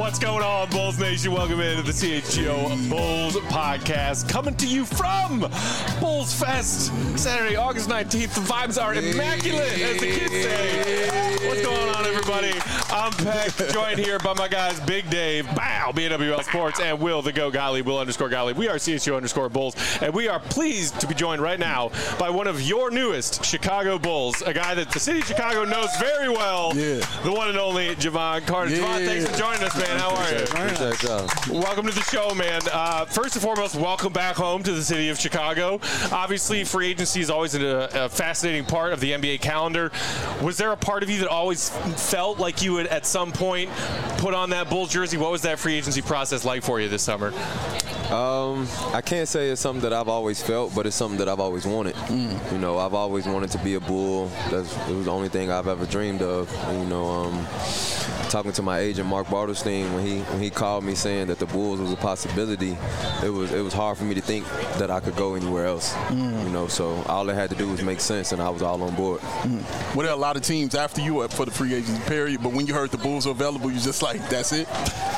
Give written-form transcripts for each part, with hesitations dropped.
What's going on, Bulls Nation? Welcome into the CHGO Bulls podcast, coming to you from Bulls Fest, Saturday, August 19th. The vibes are immaculate, as the kids say. What's going on, everybody? I'm Peck, joined here by my guys, Big Dave, Bow, BNWL Sports, and Will, the Go Gottlieb, Will_Gottlieb. We are CHGO_Bulls, and we are pleased to be joined right now by one of your newest Chicago Bulls, a guy that the city of Chicago knows very well, the one and only Jevon Carter. Jevon, thanks for joining us, man. How are you? Welcome to the show, man. First and foremost, welcome back home to the city of Chicago. Obviously, free agency is always a fascinating part of the NBA calendar. Was there a part of you that always felt like you would, at some point, put on that Bulls jersey? What was that free agency process like for you this summer? I can't say it's something that I've always felt, but it's something that I've always wanted. You know, I've always wanted to be a Bull. It was the only thing I've ever dreamed of. And, you know, talking to my agent Mark Bartelstein when he called me saying that the Bulls was a possibility, it was hard for me to think that I could go anywhere else. You know, so all it had to do was make sense, and I was all on board. Well, there are a lot of teams after you up for the free agency period, but when you heard the Bulls were available, you just like, that's it?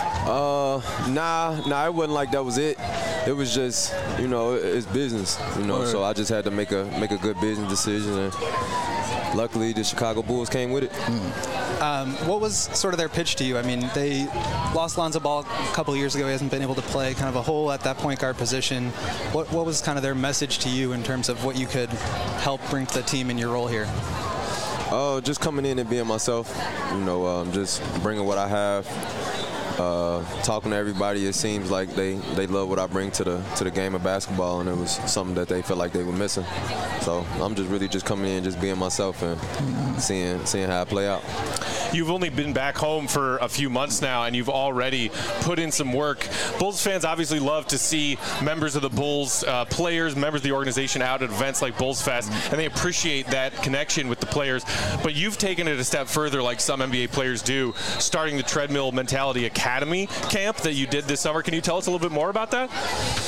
Nah, it wasn't like that was it. It was just, you know, it's business, you know. So I just had to make a good business decision, and luckily the Chicago Bulls came with it. What was sort of their pitch to you? I mean, they lost Lonzo Ball a couple of years ago. He hasn't been able to play, kind of a hole at that point guard position. What was kind of their message to you in terms of what you could help bring to the team in your role here? Just coming in and being myself, you know, just bringing what I have. Talking to everybody, it seems like they love what I bring to the game of basketball, and it was something that they felt like they were missing. So I'm just really just coming in, just being myself, and seeing how I play out. You've only been back home for a few months now, and you've already put in some work. Bulls fans obviously love to see members of the Bulls, players, members of the organization out at events like Bulls Fest, and they appreciate that connection with the players. But you've taken it a step further, like some NBA players do, starting the Treadmill Mentality Academy camp that you did this summer. Can you tell us a little bit more about that?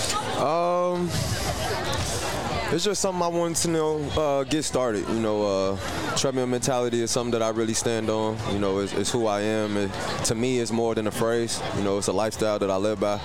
It's just something I wanted to know, get started. You know, treadmill mentality is something that I really stand on. You know, it's who I am. To me, it's more than a phrase. You know, it's a lifestyle that I live by.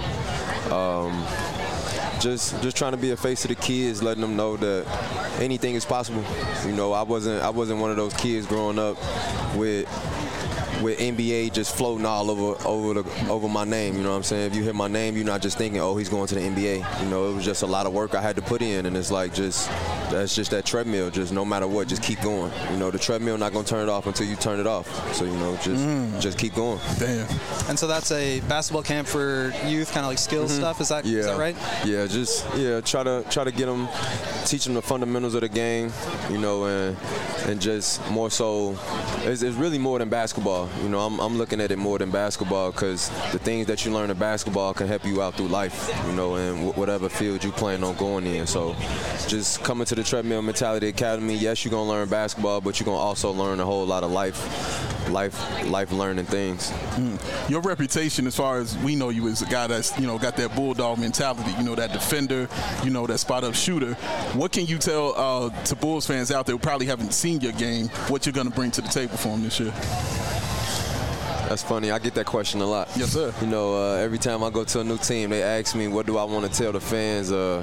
Just trying to be a face of the kids, letting them know that anything is possible. You know, I wasn't one of those kids growing up with NBA just floating all over my name, you know what I'm saying? If you hear my name, you're not just thinking, oh, he's going to the NBA. You know, it was just a lot of work I had to put in, and it's like that's just that treadmill, just no matter what, just keep going. You know, the treadmill not going to turn it off until you turn it off. So, you know, just keep going. Damn. And so that's a basketball camp for youth, kind of like skills stuff, is that right? Yeah, try to get them, teach them the fundamentals of the game, you know, and just more so, it's really more than basketball. You know, I'm looking at it more than basketball, because the things that you learn in basketball can help you out through life, you know, and whatever field you plan on going in. So just coming to the Treadmill Mentality Academy, yes, you're going to learn basketball, but you're going to also learn a whole lot of life learning things. Your reputation, as far as we know you, is a guy that's, you know, got that bulldog mentality, you know, that defender, you know, that spot-up shooter. What can you tell to Bulls fans out there who probably haven't seen your game, what you're going to bring to the table for them this year? That's funny. I get that question a lot. Yes, sir. You know, every time I go to a new team, they ask me, what do I want to tell the fans or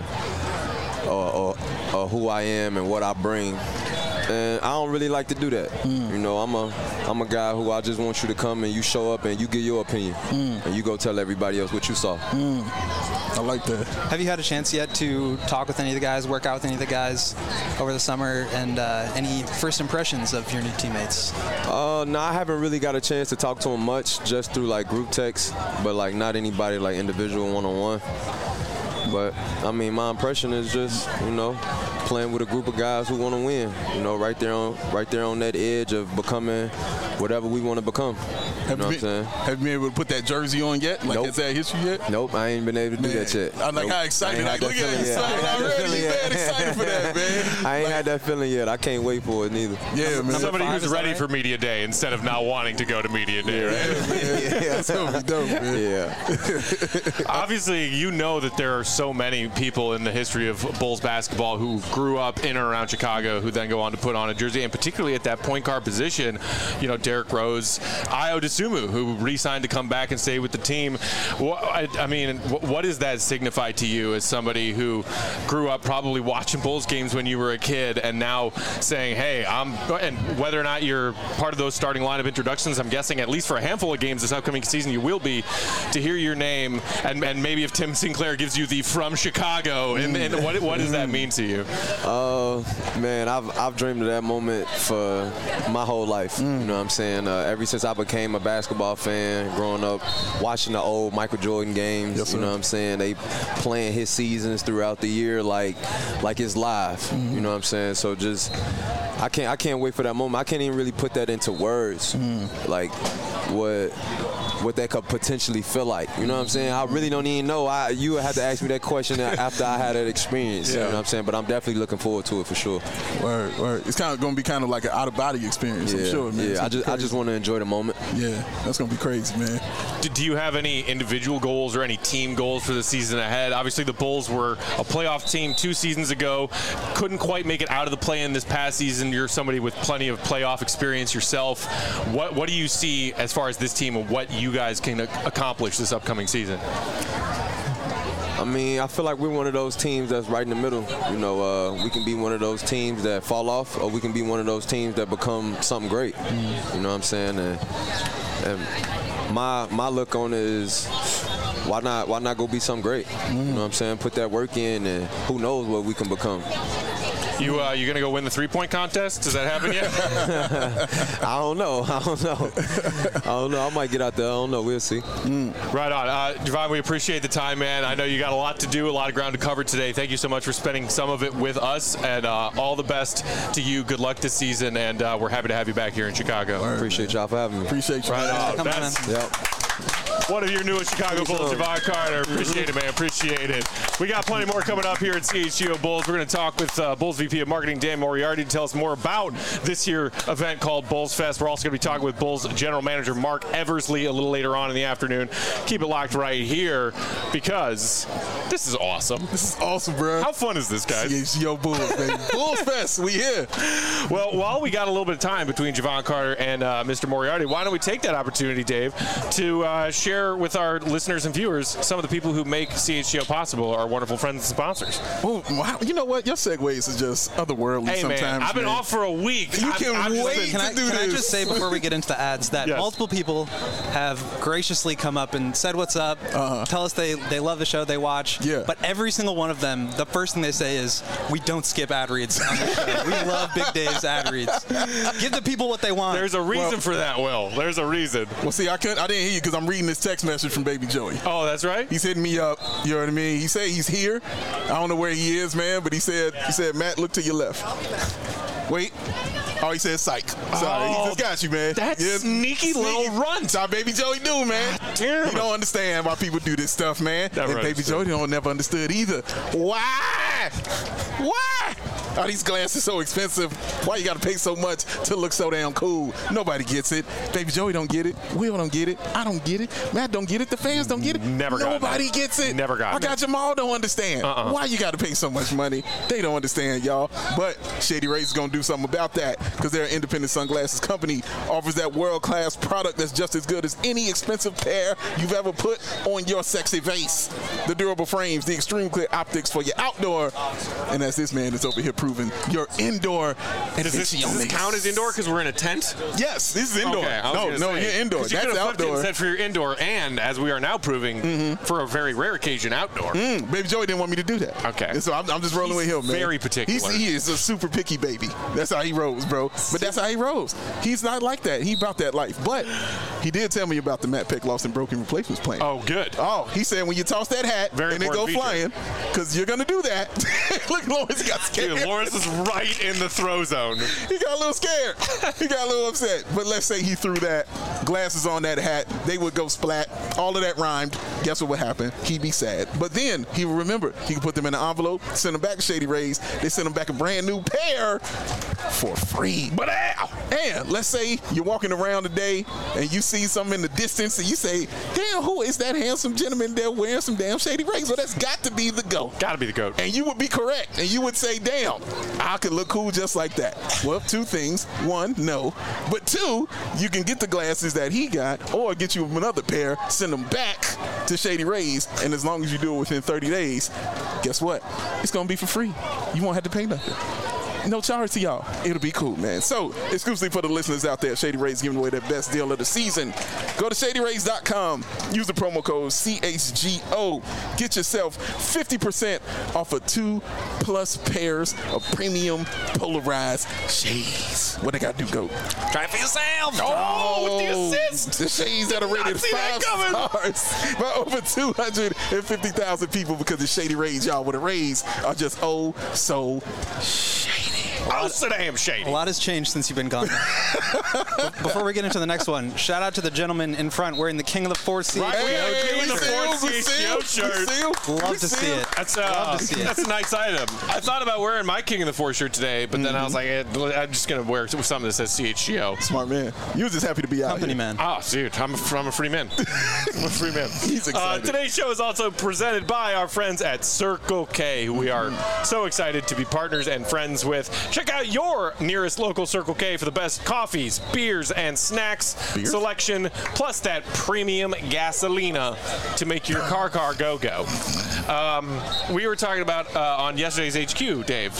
who I am and what I bring. And I don't really like to do that. You know, I'm a guy who I just want you to come and you show up and you give your opinion. And you go tell everybody else what you saw. I like that. Have you had a chance yet to talk with any of the guys, work out with any of the guys over the summer, and any first impressions of your new teammates? No, I haven't really got a chance to talk to them much, just through like group texts, but like not anybody like individual one-on-one. But I mean, my impression is just, you know, playing with a group of guys who want to win. You know, right there on that edge of becoming whatever we want to become. You know what I'm saying? Have you been able to put that jersey on yet? Like, is that history yet? Nope, I ain't been able to do that yet. I'm like, how excited. Like, look at him already. He's mad excited for that, man. I ain't had that feeling yet. I can't wait for it neither. Yeah, man. Somebody who's ready for Media Day instead of not wanting to go to Media Day, right? Yeah, that's going to be dope, man. Yeah. Obviously, you know that there are so many people in the history of Bulls basketball who grew up in and around Chicago who then go on to put on a jersey, and particularly at that point guard position, you know, Derrick Rose, Ayo Dosunmu, Dosunmu, who re-signed to come back and stay with the team. What does that signify to you as somebody who grew up probably watching Bulls games when you were a kid, and now saying, hey, and whether or not you're part of those starting lineup introductions, I'm guessing at least for a handful of games this upcoming season you will be, to hear your name, and maybe if Tim Sinclair gives you the from Chicago, and what does that mean to you? Man, I've dreamed of that moment for my whole life. You know what I'm saying? Ever since I became a basketball fan, growing up, watching the old Michael Jordan games. Yes, you know what I'm saying? They playing his seasons throughout the year like it's live. You know what I'm saying? So just I can't wait for that moment. I can't even really put that into words. Like what that could potentially feel like. You know what I'm saying? I really don't even know. You would have to ask me that question after I had that experience. Yeah. You know what I'm saying? But I'm definitely looking forward to it for sure. Word. It's kind of going to be kind of like an out-of-body experience, I'm sure, man. Yeah, I just want to enjoy the moment. Yeah, that's going to be crazy, man. Do you have any individual goals or any team goals for the season ahead? Obviously, the Bulls were a playoff team 2 seasons ago. Couldn't quite make it out of the play-in this past season. You're somebody with plenty of playoff experience yourself. What do you see as far as this team and what you guys can accomplish this upcoming season? I mean, I feel like we're one of those teams that's right in the middle. You know, we can be one of those teams that fall off, or we can be one of those teams that become something great. You know what I'm saying? And my look on it is, why not go be something great? You know what I'm saying? Put that work in, and who knows what we can become. You gonna go win the 3-point contest? Does that happen yet? I don't know. I might get out there. I don't know. We'll see. Right on. Javon, we appreciate the time, man. I know you got a lot to do, a lot of ground to cover today. Thank you so much for spending some of it with us, and all the best to you. Good luck this season, and we're happy to have you back here in Chicago. Appreciate y'all for having me. Appreciate you. Right on. Yep. One of your newest Chicago Bulls, Javon Carter. Appreciate it, man. Appreciate it. We got plenty more coming up here at CHGO Bulls. We're going to talk with Bulls VP of Marketing, Dan Moriarty, to tell us more about this year event called Bulls Fest. We're also going to be talking with Bulls General Manager Mark Eversley a little later on in the afternoon. Keep it locked right here, because this is awesome. This is awesome, bro. How fun is this, guys? CHGO Bulls, baby. Bulls Fest, we here. Well, while we got a little bit of time between Javon Carter and Mr. Moriarty, why don't we take that opportunity, Dave, to share with our listeners and viewers some of the people who make CHGO possible, our wonderful friends and sponsors. Oh, wow. You know what? Your segues is just otherworldly sometimes. Man, I've been off for a week. You can't wait to do this. Can I just say before we get into the ads that multiple people have graciously come up and said what's up, tell us they love the show, they watch. Yeah. But every single one of them, the first thing they say is, we don't skip ad reads on the show. We love Big Dave's ad reads. Give the people what they want. There's a reason for that, Will. There's a reason. Well, see, I didn't hear you because I'm reading this text message from Baby Joey. Oh, that's right? He's hitting me up. You know what I mean? He said he's here. I don't know where he is, man, but he said, Matt, look to your left. Wait. Oh, he said psych. Sorry, he just got you, man. That sneaky little runt. That's how Baby Joey do, man. Damn. He don't understand why people do this stuff, man. Never and Baby Joey never understood either. Why? Are these glasses so expensive? Why you got to pay so much to look so damn cool? Nobody gets it. Baby Joey don't get it. Will don't get it. I don't get it. Matt don't get it. The fans don't get it. Nobody gets it. Never got it. I got Jamal don't understand. Why you got to pay so much money? They don't understand, y'all. But Shady Rays is going to do something about that, because they're an independent sunglasses company, offers that world-class product that's just as good as any expensive pair you've ever put on your sexy face. The durable frames, the extreme clear optics for your outdoor, and as this man is over here proving, your indoor. Does this count as indoor because we're in a tent? Yes, this is indoor. Okay, no, you're indoor. That's outdoor. Instead for your indoor, and as we are now proving, for a very rare occasion, outdoor. Baby Joey didn't want me to do that. Okay. And so I'm just rolling with him, man. Very particular. He is a super picky baby. That's how he rolls, bro. But that's how he rolls. He's not like that. He about that life. But he did tell me about the Matt Peck Lost and Broken replacements plan. Oh, good. Oh, he said when you toss that hat and it go flying, because you're going to do that. Look, Lawrence got scared. Dude, Lawrence is right in the throw zone. He got a little scared. He got a little upset. But let's say he threw that, glasses on that hat, they would go splat. All of that rhymed. Guess what would happen? He'd be sad. But then he would remember. He could put them in an envelope, send them back to Shady Rays. They send them back a brand new pair for free. But and let's say you're walking around today and you see something in the distance and you say, damn, who is that handsome gentleman there wearing some damn Shady Rays? Well, that's got to be the GOAT. Got to be the GOAT. And you would be correct. And you would say, damn, I could look cool just like that. Well, two things. One, no. But two, you can get the glasses that he got or get you another pair, send them back to Shady Rays, and as long as you do it within 30 days, guess what? It's going to be for free. You won't have to pay nothing. No charge to y'all. It'll be cool, man. So, exclusively for the listeners out there, Shady Rays giving away their best deal of the season. Go to ShadyRays.com. Use the promo code CHGO. Get yourself 50% off of 2+ pairs of premium polarized shades. What they got to do, go? Try it for yourself. Oh, with the assist. The shades that are rated 5 stars by over 250,000 people because the Shady Rays, y'all, where the Rays are just oh so shady. Oh, so damn shady. A lot has changed since you've been gone. Before we get into the next one, shout out to the gentleman in front wearing the King of the Four Seas. King of the Four Seas shirt. Love to see it. Love to see it. That's a nice item. I thought about wearing my King of the Four shirt today, but then I was like, I'm just going to wear something that says CHGO. Smart man. You was just happy to be out Company here. man. Oh, dude, I'm a free man. I'm a free man. He's excited. Today's show is also presented by our friends at Circle K, who we are so excited to be partners and friends with. Check out your nearest local Circle K for the best coffees, beers, and snacks selection, plus that premium gasolina to make your car go. We were talking about on yesterday's HQ, Dave,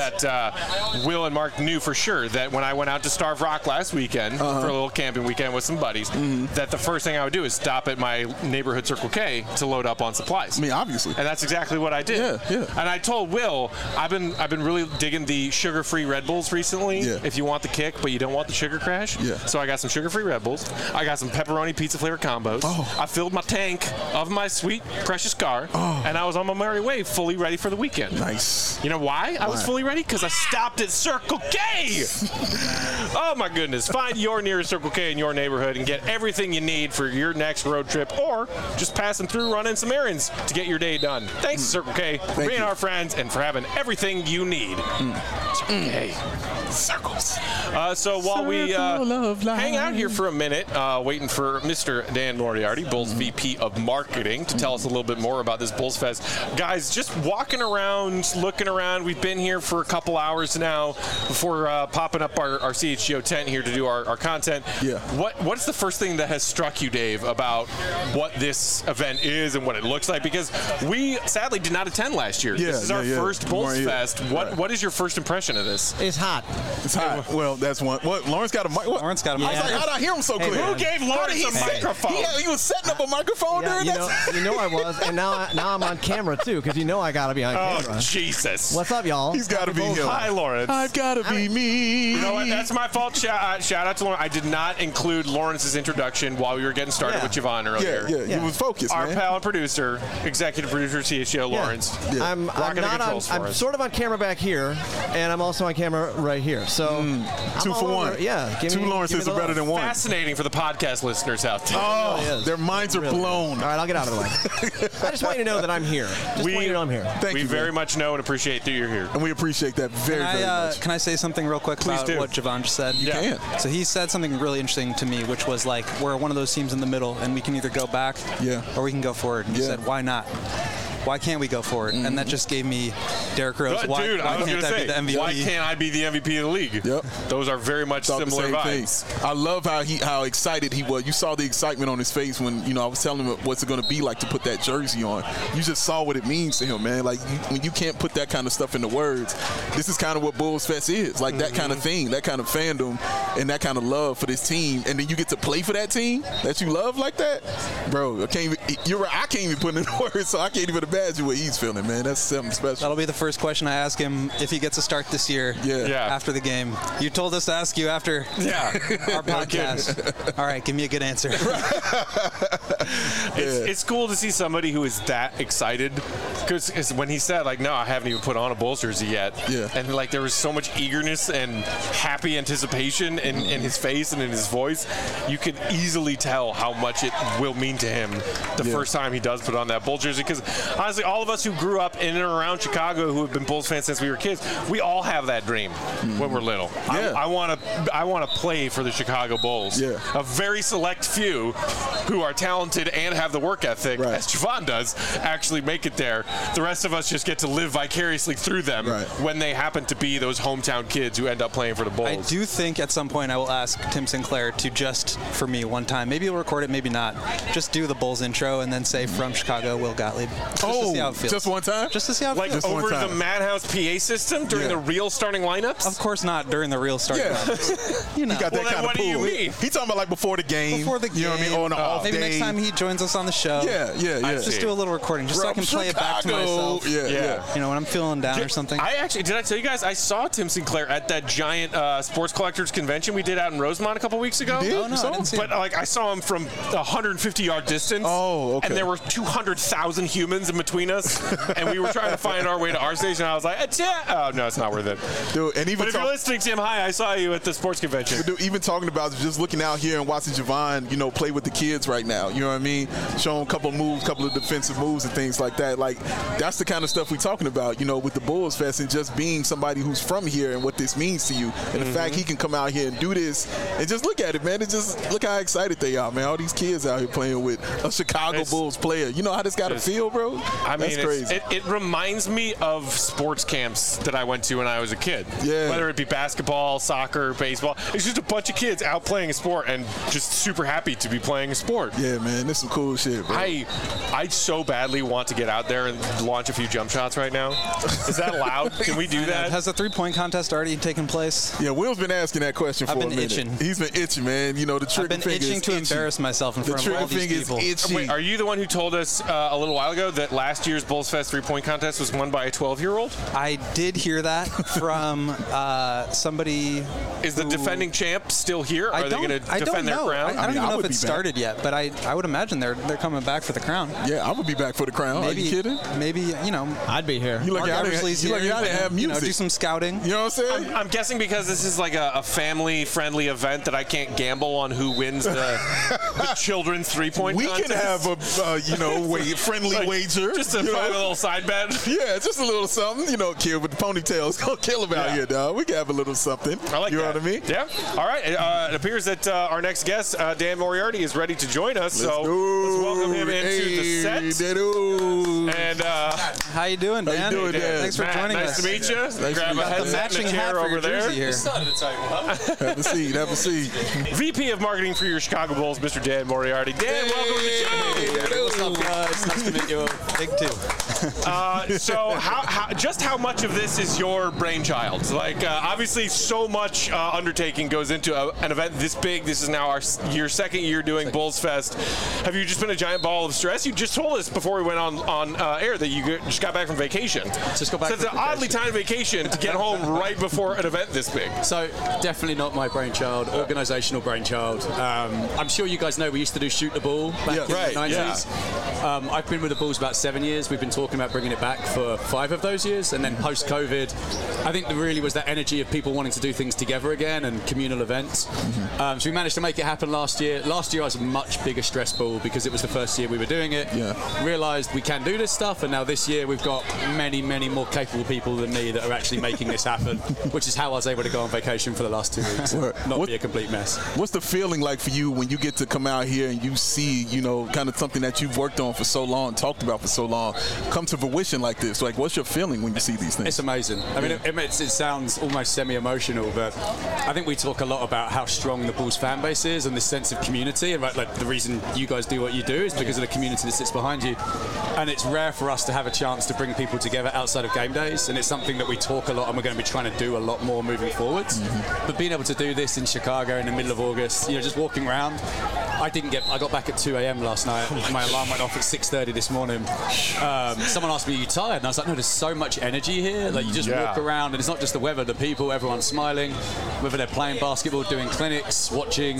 that Will and Mark knew for sure that when I went out to Starve Rock last weekend for a little camping weekend with some buddies, that the first thing I would do is stop at my neighborhood Circle K to load up on supplies. I mean, obviously. And that's exactly what I did. Yeah. And I told Will, I've been really digging the sugar-free Red Bulls recently. Yeah. If you want the kick, but you don't want the sugar crash. Yeah. So I got some sugar-free Red Bulls. I got some pepperoni pizza flavor combos. Oh. I filled my tank of my sweet, precious car, and I was on my merry way, fully ready for the weekend. Nice. You know why I was fully ready? Because I stopped at Circle K. Oh, my goodness. Find your nearest Circle K in your neighborhood and get everything you need for your next road trip or just passing through, running some errands to get your day done. Thanks, Circle K, for being our friends and for having everything you need. Circle K. Circles. So while we hang out here for a minute, waiting for Mr. Dan Moriarty, Bulls VP of Marketing, to tell us a little bit more about this Bulls Fest. Guys, just walking around, looking around. We've been here for a couple hours now before popping up our CHGO tent here to do our content. Yeah. What's the first thing that has struck you, Dave, about what this event is and what it looks like? Because we sadly did not attend last year. This is our first Bulls Fest. What is your first impression of this? It's hot. It's hot. Well, that's one. What? Lawrence got a mic. Lawrence got a mic. I was like, how did I hear him so clear? Who gave Lawrence a microphone? He was setting up a microphone during that. You know I was, and now I'm on camera too, because you know I gotta be on camera. Oh, Jesus. What's up, y'all? He's got to be him. Hi, Lawrence. I've got to be me. You know what? That's my fault. Shout out to Lawrence. I did not include Lawrence's introduction while we were getting started with Javon earlier. Yeah. You was focused, Our man. pal and producer, executive producer, CHGO, Lawrence. Yeah. I'm Rocking the not on. controls for I'm us. sort of on camera back here, and I'm also on camera right here. So I'm 2 all for over. 1. Yeah, give Two me- Lawrences give me are the better love. than one. Fascinating for the podcast listeners out there. Oh, really is. their minds are blown. All right, I'll get out of the way. I just want you to know that I'm here. Just want you to know I'm here. Thank we you, very man. much know and appreciate that you're here. And we appreciate that very much. Can I say something real quick about do. what Javon just said? You can. So he said something really interesting to me, which was like, we're one of those teams in the middle, and we can either go back or we can go forward. And he said, why not? Why can't we go forward? And that just gave me Derrick Rose. Why I was can't going to that be the say, MVP? why can't I be the MVP of the league? Yep. Those are very much Thought the similar same vibes. thing. I love how excited he was. You saw the excitement on his face when I was telling him what's it going to be like to put that jersey on. You just saw what it means to him, man. Like when you can't put that kind of stuff into words, this is kind of what Bulls Fest is. Like that kind of thing, that kind of fandom, and that kind of love for this team. And then you get to play for that team that you love like that, bro. You're right. I can't even put it into words, so I can't even imagine what he's feeling, man. That's something special. That'll be the first question I ask him if he gets a start this year. Yeah. After the game. You told us to ask you after our podcast. All right, give me a good answer. It's cool to see somebody who is that excited, because when he said, like, no, I haven't even put on a Bulls jersey yet, and like there was so much eagerness and happy anticipation in his face and in his voice, you could easily tell how much it will mean to him the first time he does put on that Bulls jersey. Because honestly, all of us who grew up in and around Chicago, who have been Bulls fans since we were kids, we all have that dream when we're little. I want to play for the Chicago Bulls. A very select few who are talented and have the work ethic, as Javon does, actually make it there. the rest of us just get to live vicariously through them when they happen to be those hometown kids who end up playing for the Bulls. I do think at some point I will ask Tim Sinclair to just, for me, one time, maybe he'll record it, maybe not, just do the Bulls intro and then say, from Chicago, Will Gottlieb. Just to see how it feels. Just one time? Just to see how it feels. Like over the Madhouse PA system during the real starting lineups? Of course not during the real starting lineups. You know. He got that kind of what do you mean? He talking about like before the game. Before the game. You know what I mean? On an off maybe day. next time he joins us on the show. Yeah. Just do a little recording just so I can play it back to myself. Yeah. You know, when I'm feeling down or something. Did I tell you guys, I saw Tim Sinclair at that giant sports collectors convention we did out in Rosemont a couple weeks ago. You did? Oh, no, I didn't see But like I saw him from 150-yard distance. Oh, okay. And there were 200,000 humans in between us, and we were trying to find our way to our station. I was like, oh no, it's not worth it. Dude, and even but if you're listening, Tim, hi, I saw you at the sports convention. Dude, even talking about just looking out here and watching Javon, play with the kids right now. You know what I mean? Showing a couple of moves, couple of defensive moves and things like that. Like, that's the kind of stuff we're talking about, with the Bulls Fest and just being somebody who's from here and what this means to you. And the fact he can come out here and do this and just look at it, man. And just look how excited they are, man. All these kids out here playing with a Chicago Bulls player. You know how this got to feel, bro? I mean, that's crazy. It reminds me of sports camps that I went to when I was a kid. Yeah. Whether it be basketball, soccer, baseball. It's just a bunch of kids out playing a sport and just super happy to be playing a sport. Yeah, man. This is some cool shit, bro. I so badly want to get out there and launch a few jump shots right now. Is that allowed? Can we do that? Has the three-point contest already taken place? Yeah, Will's been asking that question for a minute. I've been itching. He's been itching, man. The trigger finger is I've been itching to embarrass myself in front of all these people. Itchy. Wait, are you the one who told us a little while ago that last year's Bulls Fest three-point contest was won by a 12-year-old? I did hear that from somebody. Is the defending champ still here? Are they going to defend their crown? I don't even know if it started yet, but I would imagine they're coming back for the crown. Yeah, I would be back for the crown. Maybe, are you kidding? Maybe, I'd be here. You look out there have music. Do some scouting. You know what I'm saying? I'm guessing because this is like a family-friendly event that I can't gamble on who wins the children's three-point contest. We can have a friendly wager. Just a little side bet. Yeah, just a little something. Kid with the ponytails gonna kill him out here, dog. We can have a little something. I like that. You know what I mean? Yeah. All right. It appears that our next guest, Dan Moriarty, is ready to join us. Let's welcome him into the set. And how you doing, Dan? How you doing, Dan? Thanks for joining us. Nice to meet you. Grab a headset and a chair over there. Have a seat. VP of Marketing for your Chicago Bulls, Mr. Dan Moriarty. Dan, welcome to the show. What's up, guys? Nice to meet you all. Big two. So how much of this is your brainchild? Like, obviously, so much undertaking goes into an event this big. This is now your second year doing Bulls Fest. Have you just been a giant ball of stress? You just told us before we went on air that you just got back from vacation. Just got back. So it's an oddly timed vacation to get home right before an event this big. So definitely not my brainchild, organizational brainchild. I'm sure you guys know we used to do Shoot the Ball back in the 90s. Yeah. I've been with the Bulls about 7 years. We've been talking about bringing it back for 5 of those years. And then post-COVID, I think there really was that energy of people wanting to do things together again and communal events. So we managed to make it happen last year. Last year I was a much bigger stress ball because it was the first year we were doing it. Yeah. Realized we can do this stuff, and now this year we've got many, many more capable people than me that are actually making this happen, which is how I was able to go on vacation for the last 2 weeks. Not be a complete mess. What's the feeling like for you when you get to come out here and you see, kind of something that you've worked on for so long, talked about for so long, come to fruition like this? Like, what's your feeling when you see these things? It's amazing. I mean, it sounds almost semi-emotional, but I think we talk a lot about how strong the Bulls fan base is and this sense of community, and like the reason you guys do what you do is because of the community that sits behind you. And it's rare for us to have a chance to bring people together outside of game days, and it's something that we talk a lot and we're going to be trying to do a lot more moving forwards. But being able to do this in Chicago in the middle of August, just walking around, I got back at 2 a.m. last night. My alarm went off at 6:30 this morning. Someone asked me, "Are you tired?" And I was like, "No, there's so much energy here. Like, you just walk around, and it's not just the weather, the people, everyone's smiling, whether they're playing basketball, doing clinics, watching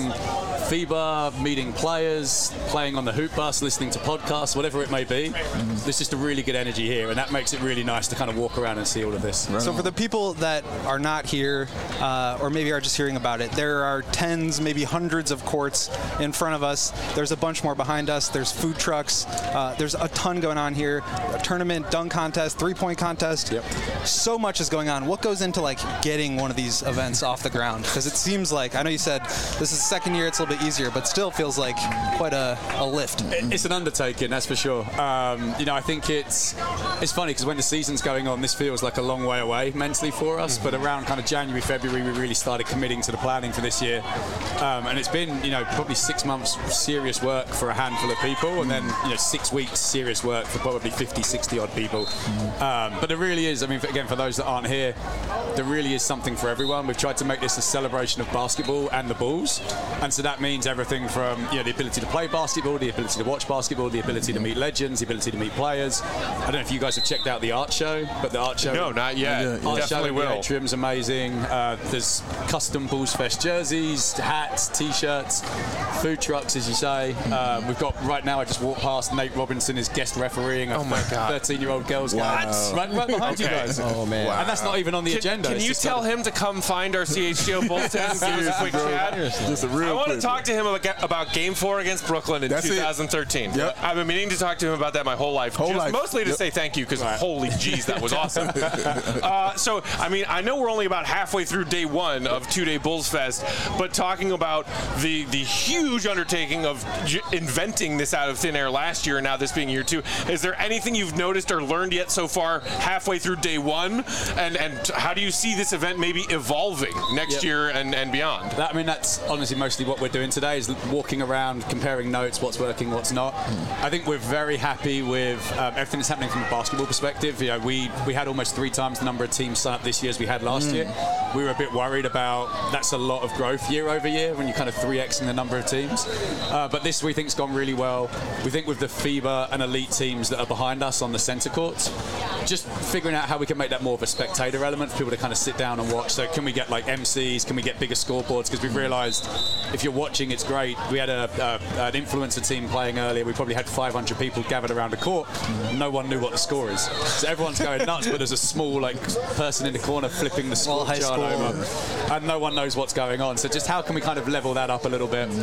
FIBA, meeting players, playing on the hoop bus, listening to podcasts, whatever it may be. There's just a really good energy here, and that makes it really nice to kind of walk around and see all of this. So for the people that are not here, or maybe are just hearing about it, there are tens, maybe hundreds of courts in front of us. There's a bunch more behind us. There's food trucks. There's a ton going on here. A tournament, dunk contest, three-point contest. Yep. So much is going on. What goes into getting one of these events off the ground? Because it seems like, I know you said this is the second year, it's a little bit easier, but still feels like quite a lift. It's an undertaking, that's for sure. I think it's It's funny because when the season's going on, this feels like a long way away mentally for us. But around kind of January, February, we really started committing to the planning for this year. And it's been, probably 6 months serious work for a handful of people, and then 6 weeks serious work for probably 50, 60 odd people. But there really is, again, for those that aren't here, there really is something for everyone. We've tried to make this a celebration of basketball and the Bulls. And so that means everything from the ability to play basketball, the ability to watch basketball, the ability to meet legends, the ability to meet players. I don't know if you guys have checked out the art show, but the art show... No, not yet. Art Definitely show will. The atrium's amazing. There's custom Bulls Fest jerseys, hats, T-shirts, food trucks, as you say. We've got, right now, I just walked past, Nate Robinson is guest refereeing a 13-year-old girls game. Right behind you guys. Oh, man. And that's not even on the agenda. Can you tell him to come find our CHGO Bulls tent and give us a quick chat? Just a real I want to quick. talk to him about Game 4 against Brooklyn in That's 2013. Yep. I've been meaning to talk to him about that my whole life. Mostly to say thank you, because holy jeez, that was awesome. So, I know we're only about halfway through day one of 2-day Bulls Fest, but talking about the huge undertaking of inventing this out of thin air last year, and now this being year 2, is there anything you've noticed or learned yet so far halfway through day 1? And how do you see this event maybe evolving next year and beyond? That's honestly mostly what we're doing today, is walking around, comparing notes, what's working, what's not. I think we're very happy with everything that's happening from a basketball perspective. We had almost 3 times the number of teams sign up this year as we had last year. We were a bit worried about that's a lot of growth year over year when you're kind of 3xing the number of teams. But this we think's gone really well. We think with the FIBA and elite teams that are behind us on the centre courts, just figuring out how we can make that more of a spectator element for people to kind of sit down and watch. So can we get like MCs? Can we get bigger scoreboards? Because we've realised if you're watching, it's great. We had an influencer team playing earlier. We probably had 500 people gathered around a court. No one knew what the score is. So everyone's going nuts, but there's a small person in the corner flipping the score chart over, and no one knows what's going on. So just how can we kind of level that up a little bit?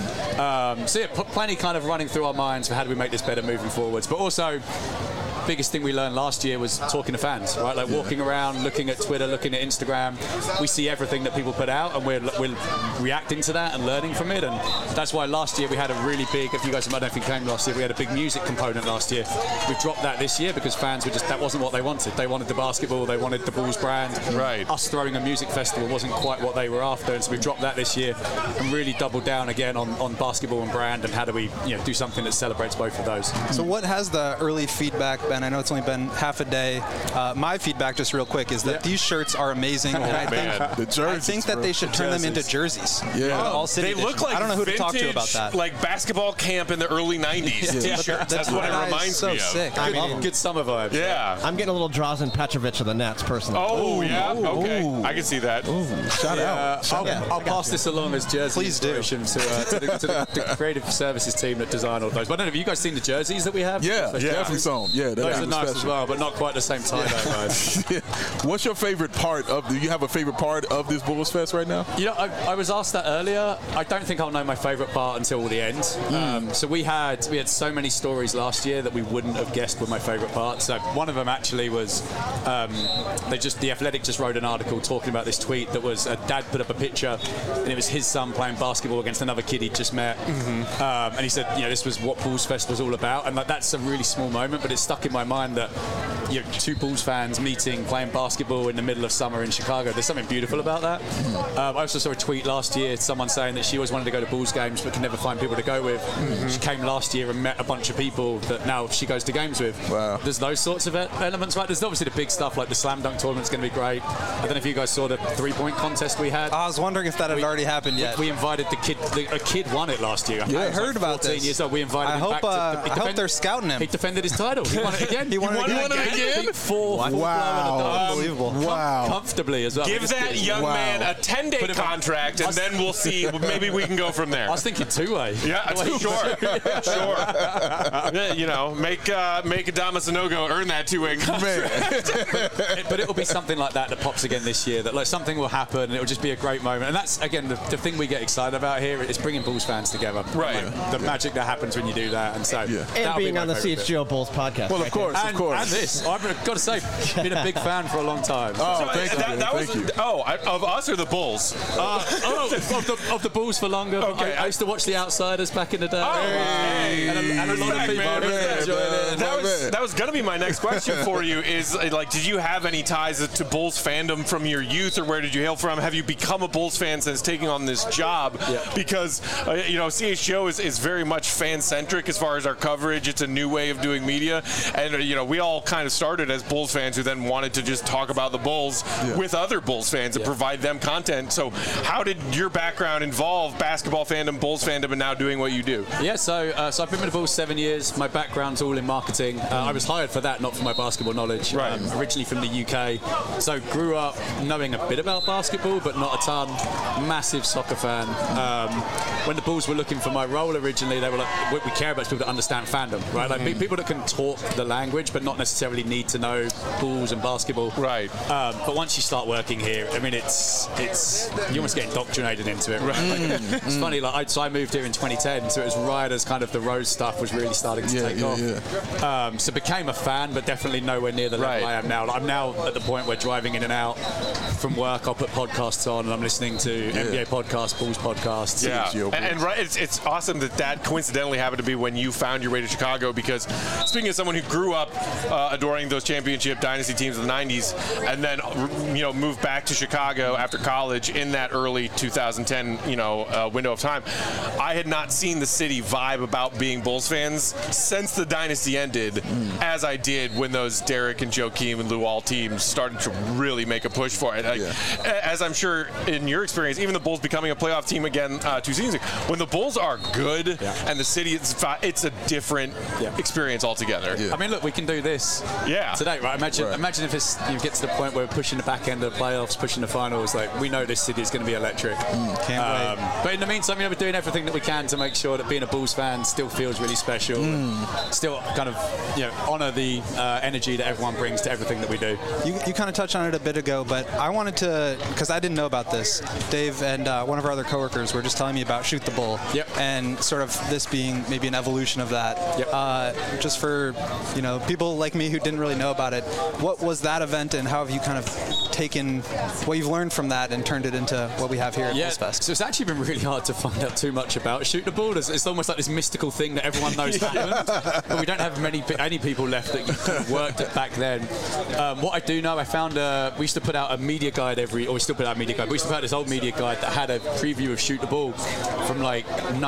Plenty kind of running through our minds for how do we make this better moving forwards. But also, biggest thing we learned last year was talking to fans, right? Walking around, looking at Twitter, looking at Instagram. We see everything that people put out, and we're reacting to that and learning from it. And that's why last year we had a really big, if you guys, I don't know if you came last year, we had a big music component last year. We've dropped that this year because fans were that wasn't what they wanted. They wanted the basketball, they wanted the Bulls brand. Right. Us throwing a music festival wasn't quite what they were after, and so we've dropped that this year and really doubled down again on basketball and brand, and how do we do something that celebrates both of those. So what has the early feedback been? I know it's only been half a day. My feedback, just real quick, is that these shirts are amazing, and I think that they should turn them into jerseys. Yeah. All city They look edition. like I don't know who to talk to about that. Like basketball camp in the early 90s t-shirts. That's what it reminds me of. Sick. Good summer vibes. Yeah. I'm getting a little Drazen Petrovic of the Nets, personally. Oh, yeah? Okay. I can see that. Shout out. I'll pass this along as jersey Please do. inspiration to the creative services team that design all those. But I don't know, have you guys seen the jerseys that we have? Yeah, definitely some. Yeah, Those are nice as well, but not quite the same time. What's your favorite part of? Do you have a favorite part of this Bulls Fest right now? I was asked that earlier. I don't think I'll know my favorite part until the end. So we had so many stories last year that we wouldn't have guessed were my favorite part. So one of them actually was the Athletic just wrote an article talking about this tweet that was a dad put up a picture, and it was his son playing basketball against another kid he'd just met, and he said this was what Bulls Fest was all about, and that's a really small moment, but it stuck in my mind that 2 Bulls fans meeting, playing basketball in the middle of summer in Chicago. There's something beautiful about that. I also saw a tweet last year, someone saying that she always wanted to go to Bulls games but could never find people to go with. She came last year and met a bunch of people that now she goes to games with. Wow. There's those sorts of elements, right? There's obviously the big stuff like the slam dunk tournament's going to be great. I don't know if you guys saw the 3-point contest we had. I was wondering if that had already happened yet. We invited the kid. A kid won it last year. I heard about 14 this. years old. We invited him back. I hope they're scouting him. He defended his title. He won it again. He won it again? Wow. Wow. Comfortably as well. Give that young man a 10-day contract, and then we'll see. Maybe we can go from there. I was thinking 2-way. Yeah, sure. Make Adama Sanogo earn that 2-way contract. But it'll be something like that pops again this year. That something will happen, and it'll just be a great moment. And that's again the thing we get excited about here is bringing Bulls fans together. Right. The magic that happens when you do that, and so and being on the CHGO Bulls podcast. Well, of course. And this. I've got to say, been a big fan for a long time. Oh, thank you. Of us or the Bulls? Of the Bulls for longer. Okay. I used to watch The Outsiders back in the day. And a lot of people that was going to be my next question for you is, like, did you have any ties to Bulls fandom from your youth, or where did you hail from? Have you become a Bulls fan since taking on this job? Yeah. Because, CHGO is very much fan-centric as far as our coverage. It's a new way of doing media. And, we all kind of started as Bulls fans who then wanted to just talk about the Bulls with other Bulls fans and provide them content. So how did your background involve basketball fandom, Bulls fandom, and now doing what you do? Yeah, so I've been with the Bulls 7 years. My background's all in marketing. I was hired for that, not for my basketball knowledge. Right. Originally from the UK. So grew up knowing a bit about basketball, but not a ton. Massive soccer fan. When the Bulls were looking for my role originally, they were like, what we care about is people that understand fandom, right? Like people that can talk the language, but not necessarily need to know Bulls and basketball. Right. But once you start working here, I mean, it's you almost get indoctrinated into it, right? It's funny, so I moved here in 2010, so it was right as kind of the Rose stuff was really starting to take off. So became a fan, but definitely nowhere near the level I am now. I'm now at the point where driving in and out from work, I'll put podcasts on and I'm listening to NBA podcasts, Bulls podcasts. Yeah, and it's awesome that coincidentally happened to be when you found your way to Chicago, because speaking as someone who grew up adoring those championship dynasty teams of the 90s and then moved back to Chicago after college in that early 2010 window of time, I had not seen the city vibe about being Bulls fans since the dynasty ended as I did when those Derek and Joakim and Luol teams started to really make a push for it. As I'm sure in your experience, even the Bulls becoming a playoff team again 2 seasons ago, when the Bulls are good and the city it's a different experience altogether. I mean, look, we can do this today, right? Imagine if you get to the point where we're pushing the back end of the playoffs, pushing the finals. Like, we know this city is going to be electric. Can't wait. But in the meantime, we're doing everything that we can to make sure that being a Bulls fan still feels really special. Still kind of honor the energy that everyone brings to everything that we do. You kind of touched on it a bit ago, but I wanted to, because I didn't know about this. Dave and one of our other coworkers were just telling me about Shoot the Bull, and sort of this being maybe an evolution of that. Just for people like me who didn't really know about it, what was that event, and how have you kind of taken what you've learned from that and turned it into what we have here at Bulls Fest? So it's actually been really hard to find out too much about Shoot the Bull. It's almost like this mystical thing that everyone knows happened, but we don't have any people left that worked it back then. What I do know, I found we used to put out a media guide we still put out a media guide. We used to put out this old media guide that had a preview of Shoot the Bull from like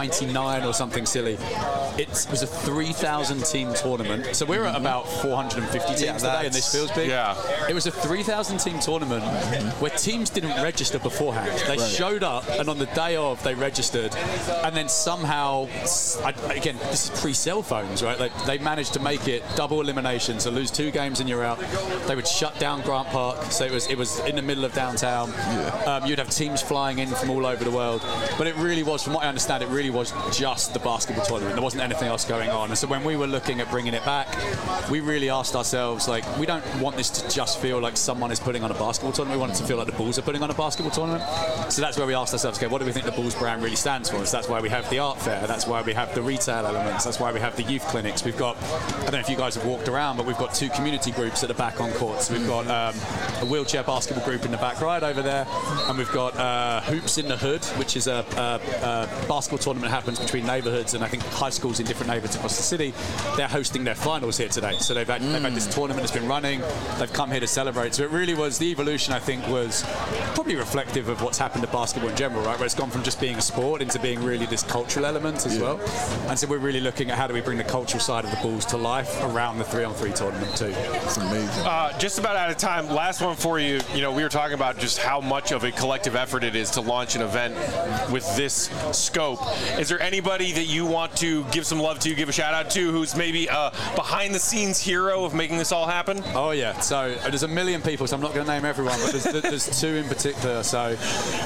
99 or something silly. It was a 3,000 team tournament. So we're at about 450 teams today, and this feels big. It was a 3,000 team tournament where teams didn't register beforehand. They showed up, and on the day of, they registered, and then somehow, again, this is pre-cell phones, right? They managed to make it double elimination, so lose 2 games and you're out. They would shut down Grant Park, so it was in the middle of downtown. You'd have teams flying in from all over the world, but it really was, from what I understand, it really was just the basketball tournament. There wasn't anything else going on. And so when we were looking at bringing it back, we really asked ourselves, like, we don't want this to just feel like someone is putting on a basketball tournament. We want it to feel like the Bulls are putting on a basketball tournament. So that's where we asked ourselves, okay, what do we think the Bulls brand really stands for? So that's why we have the art fair. That's why we have the retail elements. That's why we have the youth clinics. We've got, I don't know if you guys have walked around, but we've got 2 community groups at the back on courts. We've got a wheelchair basketball group in the back right over there, and we've got Hoops in the Hood, which is a basketball tournament that happens between neighborhoods, and I think high schools in different neighborhoods across the city. They're hosting their finals here today. So they've had this tournament that's been running. They've come here to celebrate. So it really was, the evolution, I think, was probably reflective of what's happened to basketball in general, right? Where it's gone from just being a sport into being really this cultural element as well. And so we're really looking at how do we bring the cultural side of the Bulls to life around the 3-on-3 tournament too. It's amazing. Just about out of time. Last one for you. We were talking about just how much of a collective effort it is to launch an event with this scope. Is there anybody that you want to give some love to, give a shout out to, who's maybe a behind the scenes hero of making this all happen? Oh yeah. So there's a million people, so I'm not going to name everyone, but there's 2 in particular. So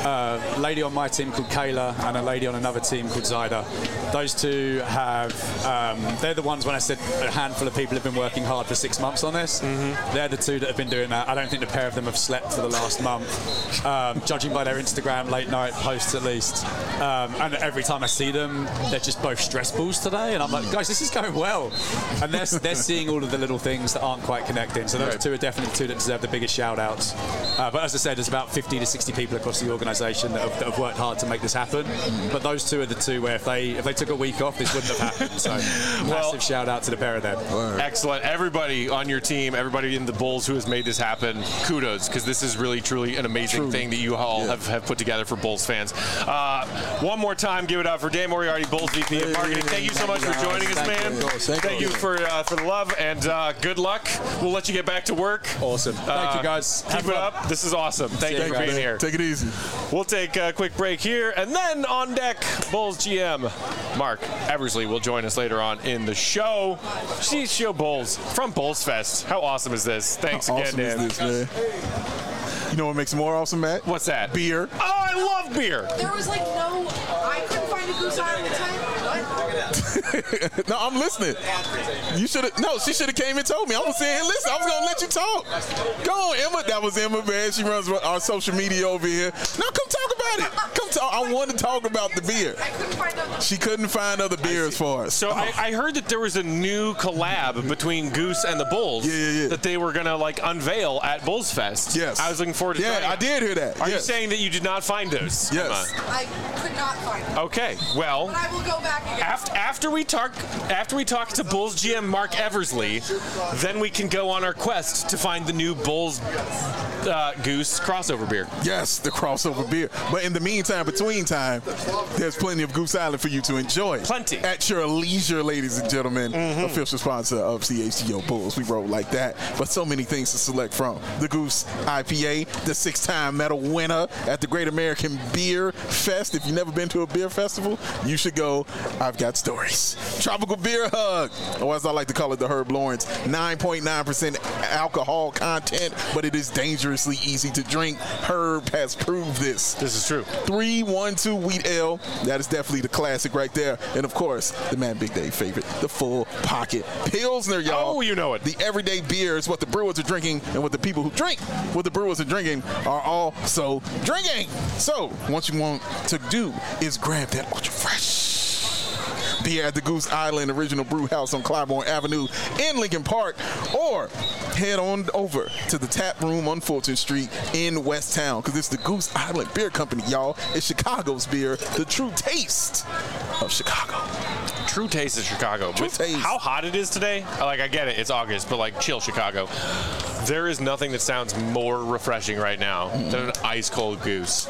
a lady on my team called Kayla and a lady on another team called Zyda. Those 2 have, they're the ones when I said a handful of people have been working hard for 6 months on this. They're the 2 that have been doing that. I don't think the pair of them have slept for the last month, judging by their Instagram late night posts at least. And every time I see them, they're just both stress balls today. And I'm like, guys, this is going well. And they're seeing all of the little things things that aren't quite connecting. So those two are definitely the two that deserve the biggest shout-outs. But as I said, there's about 50 to 60 people across the organisation that have worked hard to make this happen. But those two are the two where if they took a week off, this wouldn't have happened. So massive shout-out to the pair of them. Excellent. Everybody on your team, everybody in the Bulls who has made this happen, kudos, because this is really, truly an amazing thing that you all have put together for Bulls fans. One more time, give it up for Dan Moriarty, Bulls VP of Marketing. Thank you so much for joining us, man. Thank you for the love, and good luck. We'll let you get back to work. Awesome. Thank you, guys. Keep it up. This is awesome. Thank you for being here. Take it easy. We'll take a quick break here, and then on deck, Bulls GM Mark Eversley will join us later on in the show. CHGO Bulls from Bulls Fest. How awesome is this? Thanks again, awesome Dan. Is this, man? You know what makes it more awesome, Matt? What's that? Beer. Oh, I love beer. There was I couldn't find a Goose Island type. What? No, I'm listening. You should have. No, she should have came and told me. I was saying, listen, I was gonna let you talk. Go on, Emma. That was Emma, man. She runs our social media over here. No, come talk about it. Come talk. I want to talk about the beer. I couldn't find other. She couldn't find other beers for us. So I heard that there was a new collab between Goose and the Bulls that they were gonna unveil at Bulls Fest. Yes. I was looking forward to trying. I did hear that. Are you saying that you did not find those? Yes. Emma? I could not find it. Okay. Well. But I will go back again. After we talk to Bulls GM Mark Eversley, then we can go on our quest to find the new Bulls Goose crossover beer. Yes, the crossover beer. But in the meantime, between time, there's plenty of Goose Island for you to enjoy. Plenty. At your leisure, ladies and gentlemen. Official sponsor of CHGO Bulls. We roll like that. But so many things to select from. The Goose IPA, the 6-time medal winner at the Great American Beer Fest. If you've never been to a beer festival, you should go. I've got stories. Tropical Beer Hug, or as I like to call it, the Herb Lawrence. 9.9% alcohol content, but it is dangerously easy to drink. Herb has proved this. This is true. 312 Wheat Ale, that is definitely the classic right there. And of course, the Man Big Dave favorite, the Full Pocket Pilsner, y'all. Oh, you know it. The everyday beer is what the brewers are drinking, and what the people who drink what the brewers are drinking are also drinking. So, what you want to do is grab that ultra fresh beer at the Goose Island Original Brew House on Clybourne Avenue in Lincoln Park, or head on over to the tap room on Fulton Street in West Town, because it's the Goose Island Beer Company, y'all. It's Chicago's beer, the true taste of Chicago. True taste of Chicago. True With taste. how hot it is today, I get it, it's August, but chill Chicago. There is nothing that sounds more refreshing right now than an ice cold Goose.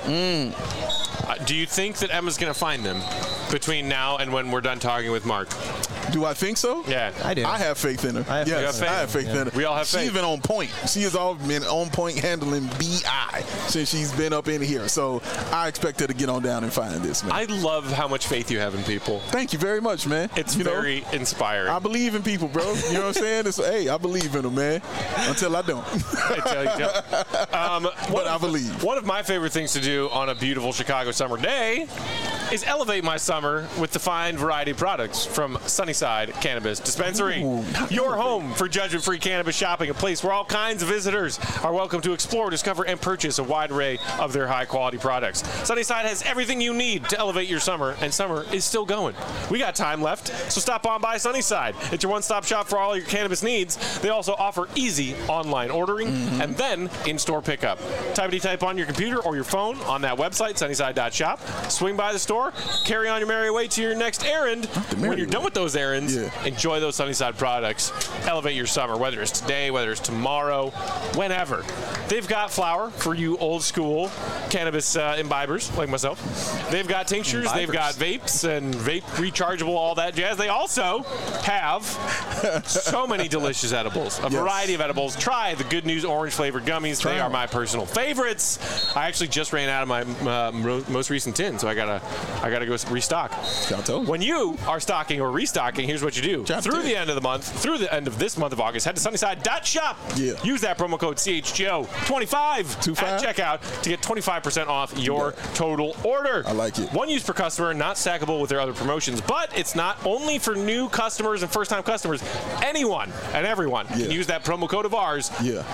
Do you think that Emma's going to find them between now and when we're done talking with Mark? Do I think so? Yeah. I do. I have faith in her. I have faith in her. We all have faith. She's been on point. She has all been on point handling BI since she's been up in here. So I expect her to get on down and find this, man. I love how much faith you have in people. Thank you very much, man. It's very inspiring. I believe in people, bro. You know what I'm saying? I believe in them, man. Until I don't. Until you don't. But I believe. One of my favorite things to do on a beautiful Chicago summer day is elevate my summer with the fine variety of products from Sunnyside Cannabis Dispensary. Ooh, Your home for judgment-free cannabis shopping, a place where all kinds of visitors are welcome to explore, discover, and purchase a wide array of their high-quality products. Sunnyside has everything you need to elevate your summer, and summer is still going. We got time left, so stop on by Sunnyside. It's your one-stop shop for all your cannabis needs. They also offer easy online ordering and then in-store pickup. Type on your computer or your phone on that website, sunnyside.shop. Swing by the store, carry on your merry way to your next errand. When you're done with those errands, enjoy those Sunnyside products. Elevate your summer, whether it's today, whether it's tomorrow, whenever. They've got flower for you old school cannabis imbibers like myself. They've got tinctures, they've got vapes and vape rechargeable, all that jazz. They also have so many delicious edibles, a variety of edibles. Try the Good News orange flavored gummies. They are my personal favorites. I actually just ran out of my most recent tin, so I gotta go restock. When you are stocking or restocking, here's what you do. Through the end of the month, through the end of this month of August, head to sunnyside.shop. Use that promo code CHGO25 at checkout to get 25% off your total order. I like it. One use per customer, not stackable with their other promotions, but it's not only for new customers and first-time customers. Anyone and everyone can use that promo code of ours,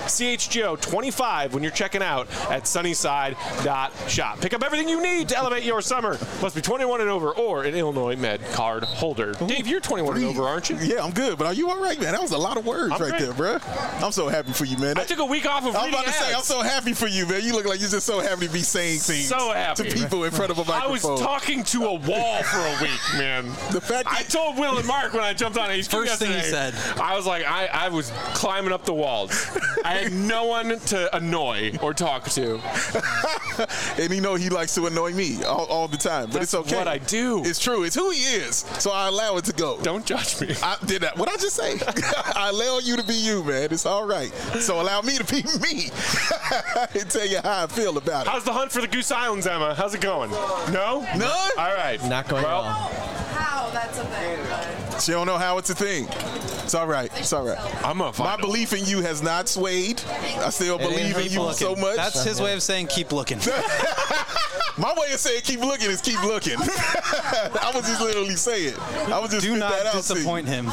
CHGO25, when you're checking out at sunnyside.shop. Pick up everything you need to elevate your summer. Must be 21 and over or an Illinois Med card holder. Dave, you're 21. 21 and over, aren't you? Yeah, I'm good. But are you all right, man? That was a lot of words right there, bro. I'm so happy for you, man. I took a week off of I was reading about to say, I'm ads. so happy for you, man. You look like you're just so happy to be saying things So happy. to people in front of a I was microphone. talking to a wall for a week, man. The fact I that told Will and Mark when I jumped on HQ First thing yesterday, he said. I was like, I was climbing up the walls. I had no one to annoy or talk to. and he likes to annoy me all the time, but That's it's okay. what I do. It's true. It's who he is. So I allow it to go. Don't judge me. I did that. What I just say? I allow you to be you, man. It's all right. So allow me to be me and tell you how I feel about it. How's the hunt for the Goose Islands, Emma? How's it going? No? None? All right. Not going well. How? That's a thing. But She don't know how it's a thing. It's all right. It's all right. I'm going to find My out. belief in you has not swayed. I still believe in you so much. That's his way of saying keep looking. My way of saying keep looking is keep looking. I was just literally saying. I was just Do spit not that out to you. disappoint him.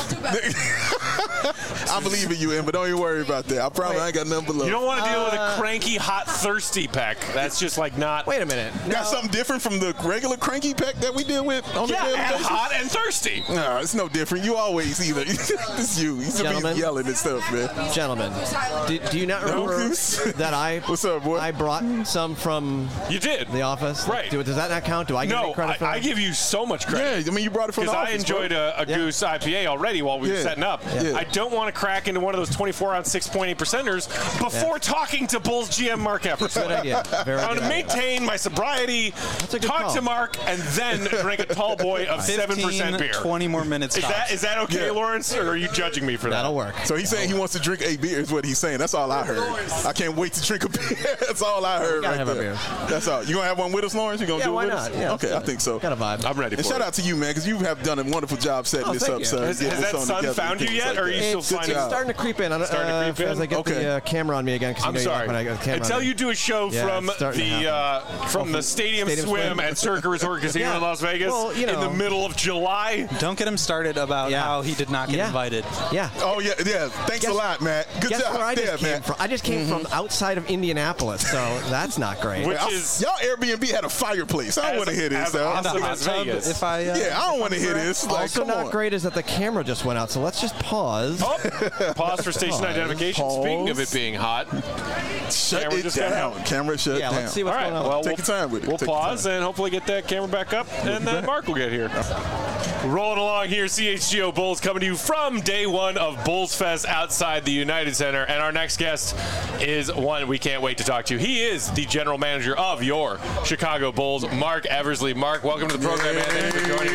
I believe in you, Em, but don't even worry about that. I promise I ain't got nothing but love. You don't want to deal with a cranky, hot, thirsty peck. That's just like not. Wait a minute. Got something different from the regular cranky peck that we deal with on the Yeah, daily and basis? hot and thirsty. No, it's no different. You always either. It's you. You should be Gentlemen. yelling and stuff, man. Gentlemen, do you not remember that What's up, boy? I brought some from You did. the office? Right. Does that not count? Do I get No, any credit for that? I give you so much credit. Yeah, I mean, you brought it from the Because office, I enjoyed bro. a Goose IPA already while we were Yeah. setting up. Yeah. I don't want to crack into one of those 24-ounce 6.8 percenters before talking to Bulls GM Mark Epperson. Good idea. Very I want good to idea. maintain my sobriety, a good talk call. to Mark, and then drink a tall boy of 7% beer. 20 more minutes. Is that okay, Yeah. Lawrence, or are you judging me for that? That'll work. So he's saying he wants to drink a beer is what he's saying. That's all I heard. I can't wait to drink a beer. That's all I heard gotta right have a there. beer. That's all. You gonna have one with us, Lawrence? You gonna Yeah, do it why with not? us? Yeah, Okay, I think so. Got a vibe. I'm ready And for shout it. out to you, man, because you have done a wonderful job setting Oh, this thank up, you. sir. Has Getting that this on sun together found and you things yet, like or are you that. still It's finding job. starting to creep in. Starting to creep in? As I get Okay. the camera on me again, because I'm sorry. when I got the camera Until on me. you do a show Yeah, from it's starting to the Stadium Stadium Swim Swim. at Circa Resort Casino Yeah. in Las Vegas Well, you in the know. middle of July. Don't get him started about Yeah. how he did not get Yeah. invited. Yeah. Oh, yeah. Thanks a Guess- lot, Matt. Good Guess job where I there, just came Matt. from? I just came from outside of Indianapolis, so that's not great. Which is Y'all Airbnb had a fireplace. I don't want to hear this, as though. awesome Hot as tub, Vegas. If I, Yeah, I don't want to hear this. Like, Also come not on. great is that the camera just went out, so let's just pause. Oh, pause for station identification. Pause. Speaking of it being hot, Shut Camera it just got down. out. Camera shut Yeah, down. let's see all what's right. going on. Well, Take your time with it. We'll Take your pause time. and hopefully get that camera back up, and then Mark will get here. Rolling along here, CHGO Bulls coming to you from day one of Bulls Fest outside the United Center, and our next guest is one we can't wait to talk to. He is the general manager of your Chicago Bulls, Mark Eversley. Mark, welcome to the program, man. Thank you for joining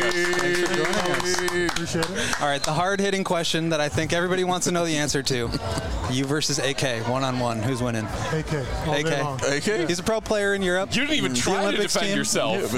us. Appreciate it. All right, the hard-hitting question that I think everybody wants to know the answer to. You versus AK, one-on-one. Who's winning? AK. All day AK. long. AK? He's a pro player in Europe. You didn't even The try to Olympics defend team. yourself.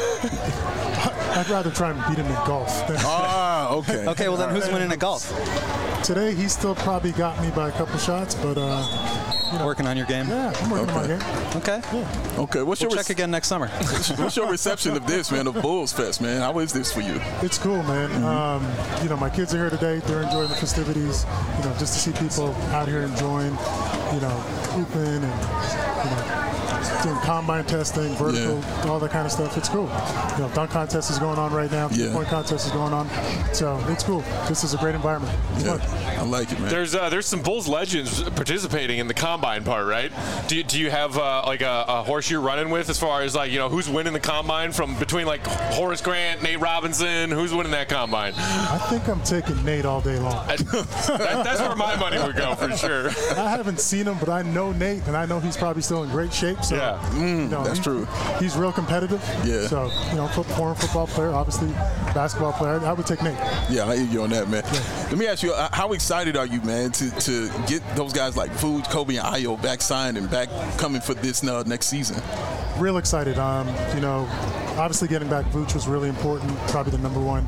I'd rather try and beat him in golf. than- Ah, okay. Okay, well then who's winning at golf? Today, he still probably got me by a couple shots, but Working on your game. yeah, I'm working on my game. Okay. Okay. What's We'll your check again next summer. What's your reception of this, man, of Bulls Fest, man? How is this for you? It's cool, man. My kids are here today. They're enjoying the festivities. Just to see people out here enjoying, hooping and, doing combine testing, vertical, all that kind of stuff. It's cool. Dunk contest is going on right now. Yeah. Point contest is going on. So it's cool. This is a great environment. It's fun. I like it, man. There's some Bulls legends participating in the combine part, right? Do you have like a horse you're running with as far as who's winning the combine from between like Horace Grant, Nate Robinson? Who's winning that combine? I think I'm taking Nate all day long. That's where my money would go for sure. I haven't seen him, but I know Nate, and I know he's probably still in great shape. So, Yeah. That's true. He's real competitive. Yeah. So, former football player, obviously basketball player. I would take Nate. Yeah, I hear you on that, man. Let me ask you, how excited are you, man, to get those guys like Vooch, Kobe, and Ayo back signed and back coming for this next season? Real excited. Obviously getting back Vooch was really important. Probably the number one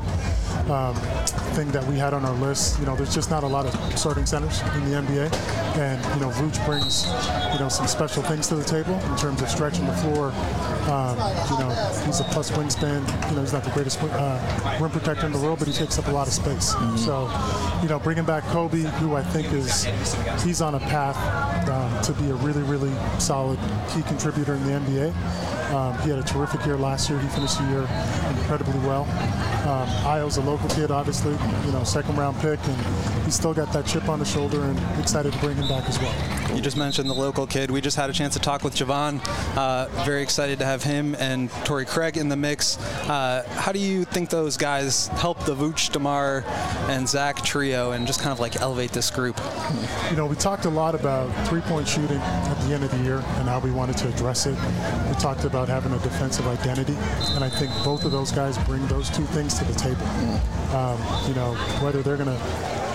thing that we had on our list. There's just not a lot of starting centers in the NBA, and Vooch brings some special things to the table in terms of stretching the floor. He's a plus wingspan. He's not the greatest rim protector in the world, but he takes up a lot of space. So, bringing back Kobe, who I think he's on a path to be a really, really solid key contributor in the NBA. He had a terrific year last year. year. He finished the year incredibly well. Io's a local kid, obviously, second-round pick, and he's still got that chip on his shoulder, and excited to bring him back as well. You just mentioned the local kid. We just had a chance to talk with Javon. Very excited to have him and Torrey Craig in the mix. How do you think those guys help the Vooch, DeMar, and Zach trio and just kind of like elevate this group? We talked a lot about three-point shooting at the end of the year and how we wanted to address it. We talked about having a defensive identity, and I think both of those guys bring those two things to the table. Whether they're going to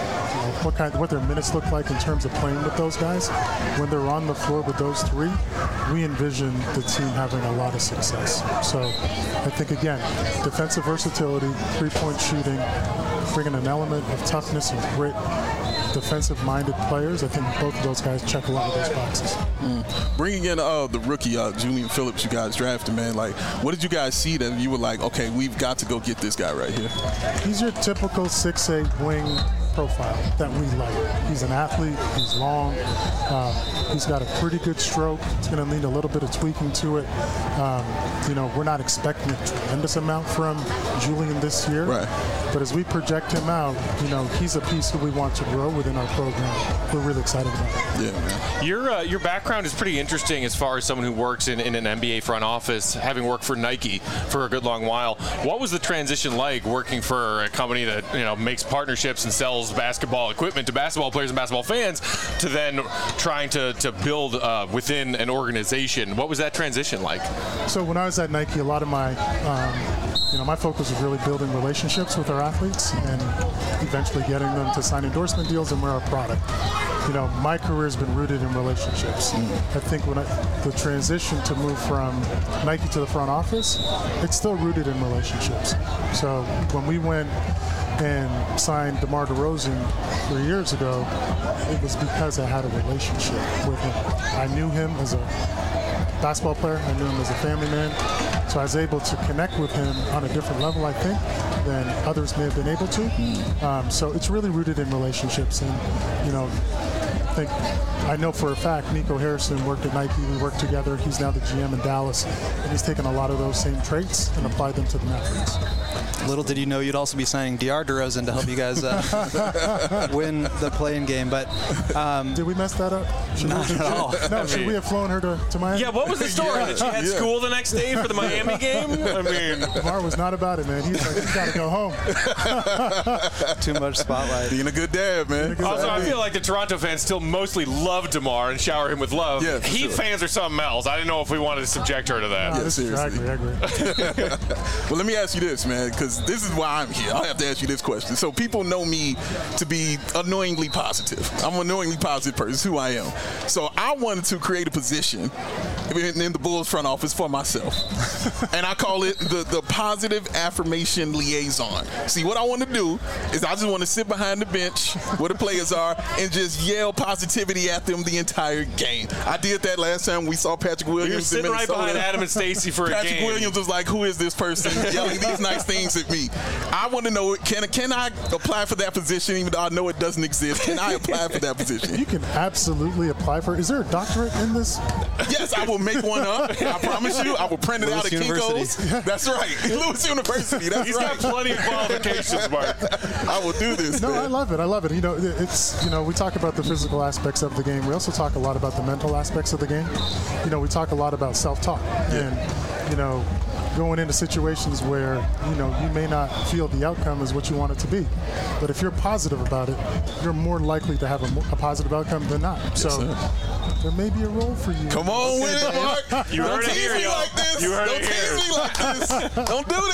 what their minutes look like in terms of playing with those guys. When they're on the floor with those three, we envision the team having a lot of success. So I think, again, defensive versatility, three-point shooting, bringing an element of toughness and grit, defensive-minded players. I think both of those guys check a lot of those boxes. Bringing in the rookie, Julian Phillips, you guys drafted, man. Like, what did you guys see that you were like, okay, we've got to go get this guy right here? He's your typical 6'8" wing profile that we like. He's an athlete. He's long. He's got a pretty good stroke. It's going to need a little bit of tweaking to it. We're not expecting a tremendous amount from Julian this year. Right. But as we project him out, he's a piece that we want to grow within our program. We're really excited about it. Yeah, man. Your background is pretty interesting as far as someone who works in an NBA front office, having worked for Nike for a good long while. What was the transition like working for a company that makes partnerships and sells basketball equipment to basketball players and basketball fans, to then trying to build within an organization? What was that transition like? So when I was at Nike, a lot of my my focus was really building relationships with our athletes and eventually getting them to sign endorsement deals and wear our product. My career has been rooted in relationships. I think when the transition to move from Nike to the front office, it's still rooted in relationships. So when we went and signed DeMar DeRozan 3 years ago, it was because I had a relationship with him. I knew him as a basketball player. I knew him as a family man. So I was able to connect with him on a different level, I think, than others may have been able to. So it's really rooted in relationships. And, I know for a fact Nico Harrison worked at Nike. We worked together. He's now the GM in Dallas. And he's taken a lot of those same traits and applied them to the Mavericks. Little did you know you'd also be signing DeAndre DeRozan to help you guys win the play-in game. But did we mess that up? Not at all. No, should we have flown her to Miami? Yeah, what was the story? That she had school the next day for the Miami game? I mean, DeMar was not about it, man. He's like, he's got to go home. Too much spotlight. Being a good dad, man. Also, I feel like the Toronto fans still mostly love DeMar and shower him with love. Yeah, Heat fans are something else. I didn't know if we wanted to subject her to that. No, seriously. I agree. Well, let me ask you this, man, because this is why I'm here. I have to ask you this question. So people know me to be annoyingly positive. I'm an annoyingly positive person. It's who I am. So I wanted to create a position in the Bulls front office for myself. And I call it the positive affirmation liaison. See, what I want to do is I just want to sit behind the bench where the players are and just yell positivity at them the entire game. I did that last time we saw Patrick Williams. You're sitting in right behind Adam and Stacey for a game. Patrick Williams was like, who is this person yelling these nice things at me? I want to know, can I apply for that position even though I know it doesn't exist? Can I apply for that position? You can absolutely apply for it. Is there a doctorate in this? Yes, I will make one up. I promise you. I will print it out at Kinko's. That's right. Lewis University. That's He's got plenty of qualifications, Mark. I will do this. No, man. I love it. I love it. It's we talk about the physical aspects of the game. We also talk a lot about the mental aspects of the game. We talk a lot about self-talk and going into situations where you may not feel the outcome is what you want it to be, but if you're positive about it, you're more likely to have a positive outcome than not. Yes, so sir. there may be a role for you. Come on with it, Mark. You heard it here, y'all. Like this. You heard Don't it here. tease me like this. Don't do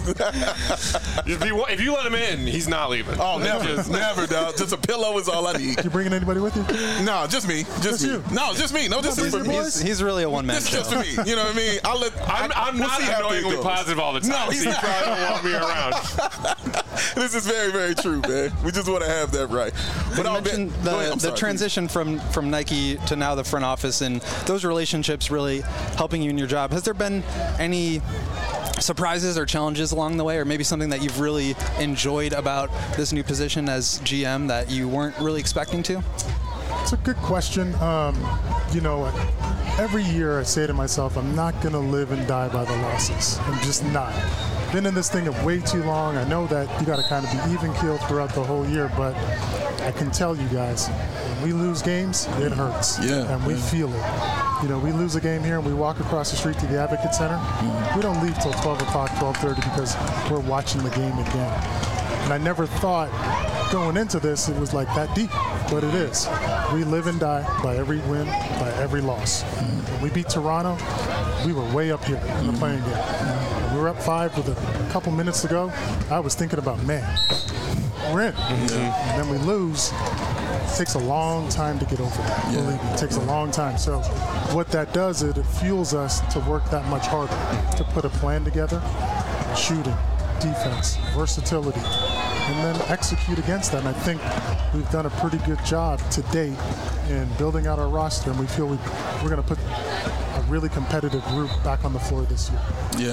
this. If you let him in, he's not leaving. Oh, never, dog. Just a pillow is all I need. You bringing anybody with you? No, just me. Just me. you? No, just me. No, this is for me. He's really a one-man This is show. just for me. You know what I mean? I'm we'll not see how it annoyingly goes. positive all the time. No, he's so you not. probably don't want me around. This is very, very true, man. We just want to have that right. But You I'll mentioned Go ahead. I'm the sorry, transition from Nike to now the front office and those relationships really helping you in your job. Has there been any surprises or challenges along the way, or maybe something that you've really enjoyed about this new position as GM that you weren't really expecting to? It's a good question. every year I say to myself, I'm not going to live and die by the losses. I'm just not. Been in this thing way too long. I know that you got to kind of be even-keeled throughout the whole year, but I can tell you guys, when we lose games, it hurts. Yeah. And we feel it. You know, we lose a game here and we walk across the street to the Advocate Center. We don't leave till 12 o'clock, 12:30 because we're watching the game again. And I never thought going into this it was like that deep, but it is. We live and die by every win, by every loss. When we beat Toronto, we were way up here in the playing game. We were up 5 with a couple minutes to go. I was thinking about, man, we're in. And then we lose. It takes a long time to get over that. Believe me, it takes a long time. So what that does is it fuels us to work that much harder, to put a plan together, shooting, defense, versatility, and then execute against that. And I think we've done a pretty good job to date in building out our roster, and we feel we're going to put a really competitive group back on the floor this year.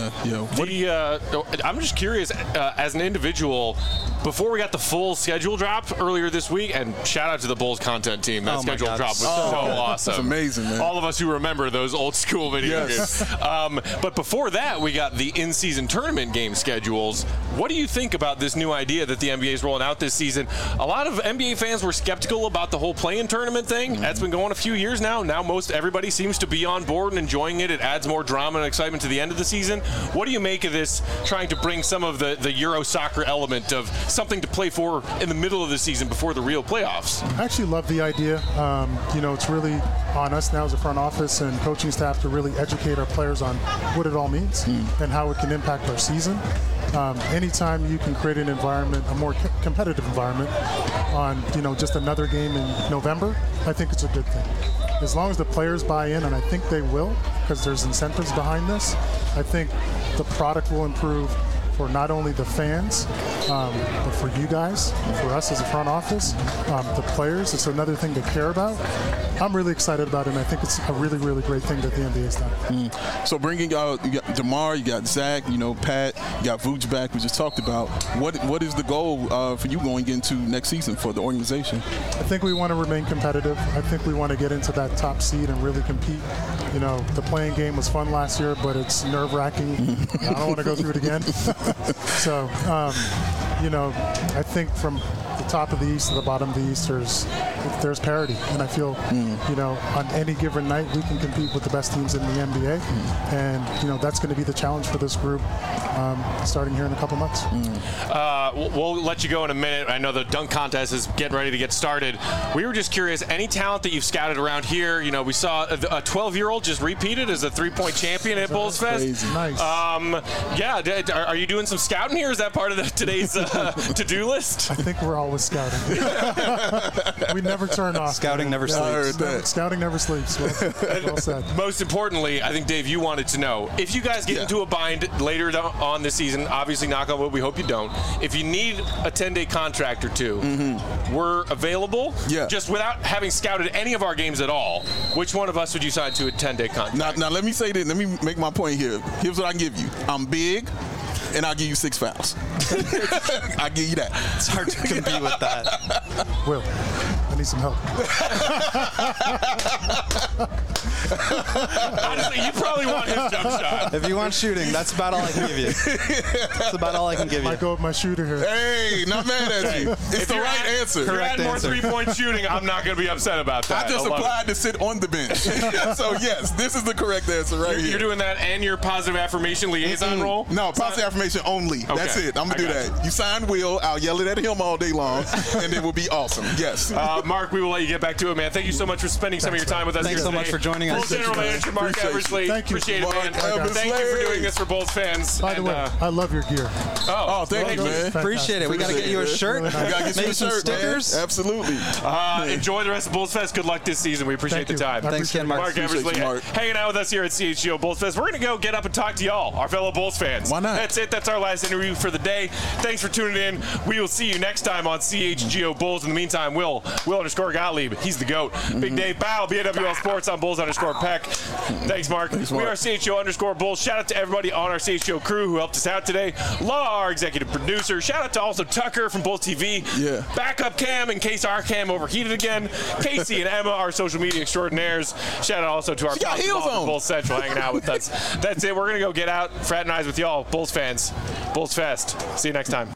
I'm just curious, as an individual, before we got the full schedule drop earlier this week, and shout out to the Bulls content team. That schedule drop was so awesome. It's amazing, man. All of us who remember those old school video games. But before that, we got the in-season tournament game schedules. What do you think about this new idea that the NBA is rolling out this season? A lot of NBA fans were skeptical about the whole play-in tournament thing. That's been going a few years now. Now most everybody seems to be on board and enjoying it. It adds more drama and excitement to the end of the season. What do you make of this, trying to bring some of the Euro soccer element of something to play for in the middle of the season before the real playoffs? I actually love the idea. You know, it's really on us now as a front office and coaching staff to really educate our players on what it all means and how it can impact our season. Anytime you can create an environment, a more competitive environment on, you know, just another game in November, I think it's a good thing. As long as the players buy in, and I think they will, because there's incentives behind this, I think the product will improve for not only the fans, but for you guys, for us as a front office, the players. It's another thing to care about. I'm really excited about it, and I think it's a really, really great thing that the NBA has done. So bringing out, you got DeMar, you got Zach, you know, Pat, you got Vooch back, we just talked about. What is the goal for you going into next season for the organization? I think we want to remain competitive. I think we want to get into that top seed and really compete. You know, the playing game was fun last year, but it's nerve-wracking. I don't want to go through it again. So, you know, I think from the top of the East to the bottom of the East, there's parity. And I feel, you know, on any given night, we can compete with the best teams in the NBA. And, you know, that's going to be the challenge for this group starting here in a couple months. We'll let you go in a minute. I know the dunk contest is getting ready to get started. We were just curious, any talent that you've scouted around here? You know, we saw a 12-year-old just repeated as a three-point champion at Bulls Fest. Nice. Are you doing some scouting here? Is that part of today's to-do list? I think we're always scouting. We never turn off. Scouting never sleeps. Scouting never sleeps. Well said. Most importantly, I think, Dave, you wanted to know, if you guys get into a bind later on this season, obviously, knock on wood, we hope you don't. If you need a 10-day contract or two, we're available. Yeah. Just without having scouted any of our games at all, which one of us would you sign to a 10-day contract? Now let me say this. Let me make my point here. Here's what I give you. I'm big, and I'll give you 6 fouls. I'll give you that. It's hard to compete with that. Will, I need some help. Honestly, you probably want his jump shot. If you want shooting, that's about all I can give you. That's about all I can give you. Might go with my shooter here. Hey, not mad at you. It's the right answer. If you Correct had more answer. three-point shooting, I'm not going to be upset about that. I just love applied it. to sit on the bench. So, yes, this is the correct answer right here. You're doing that and your positive affirmation liaison role? No, positive affirmation only. That's it. I'm going to do that. You sign Will. I'll yell it at him all day long, and it will be awesome. Yes. Mark, we will let you get back to it, man. Thank you so much for spending some of your time with us Thanks here so today. much for joining us. Bulls General Manager Mark Appreciate you. Eversley. Thank you. Appreciate it, Mark man. Eversley. Thank you for doing this for Bulls fans. By the way, I love your gear. Oh, thank you, man. Appreciate it. We got to get you a shirt. We got to get you Maybe a some shirt, stickers. man. Absolutely. Enjoy the rest of Bulls Fest. Good luck this season. We appreciate Thank the you. time. I Thanks, Ken. Mark. Mark Appreciate Eversley you, Mark. hanging out with us here at CHGO Bulls Fest. We're going to go get up and talk to y'all, our fellow Bulls fans. Why not? That's it. That's our last interview for the day. Thanks for tuning in. We will see you next time on CHGO Bulls. In the meantime, Will_Gottlieb. He's the GOAT. Big Dave Bow, BAWL Sports on Bulls_. Peck. Thanks, Mark. We are CHGO_Bulls. Shout out to everybody on our CHGO crew who helped us out today. Law, our executive producer. Shout out to also Tucker from Bulls TV. Yeah. Backup Cam in case our cam overheated again. Casey and Emma, our social media extraordinaires. Shout out also to our Bulls Central hanging out with us. That's it. We're going to go get out, fraternize with y'all. Bulls fans. Bulls Fest. See you next time.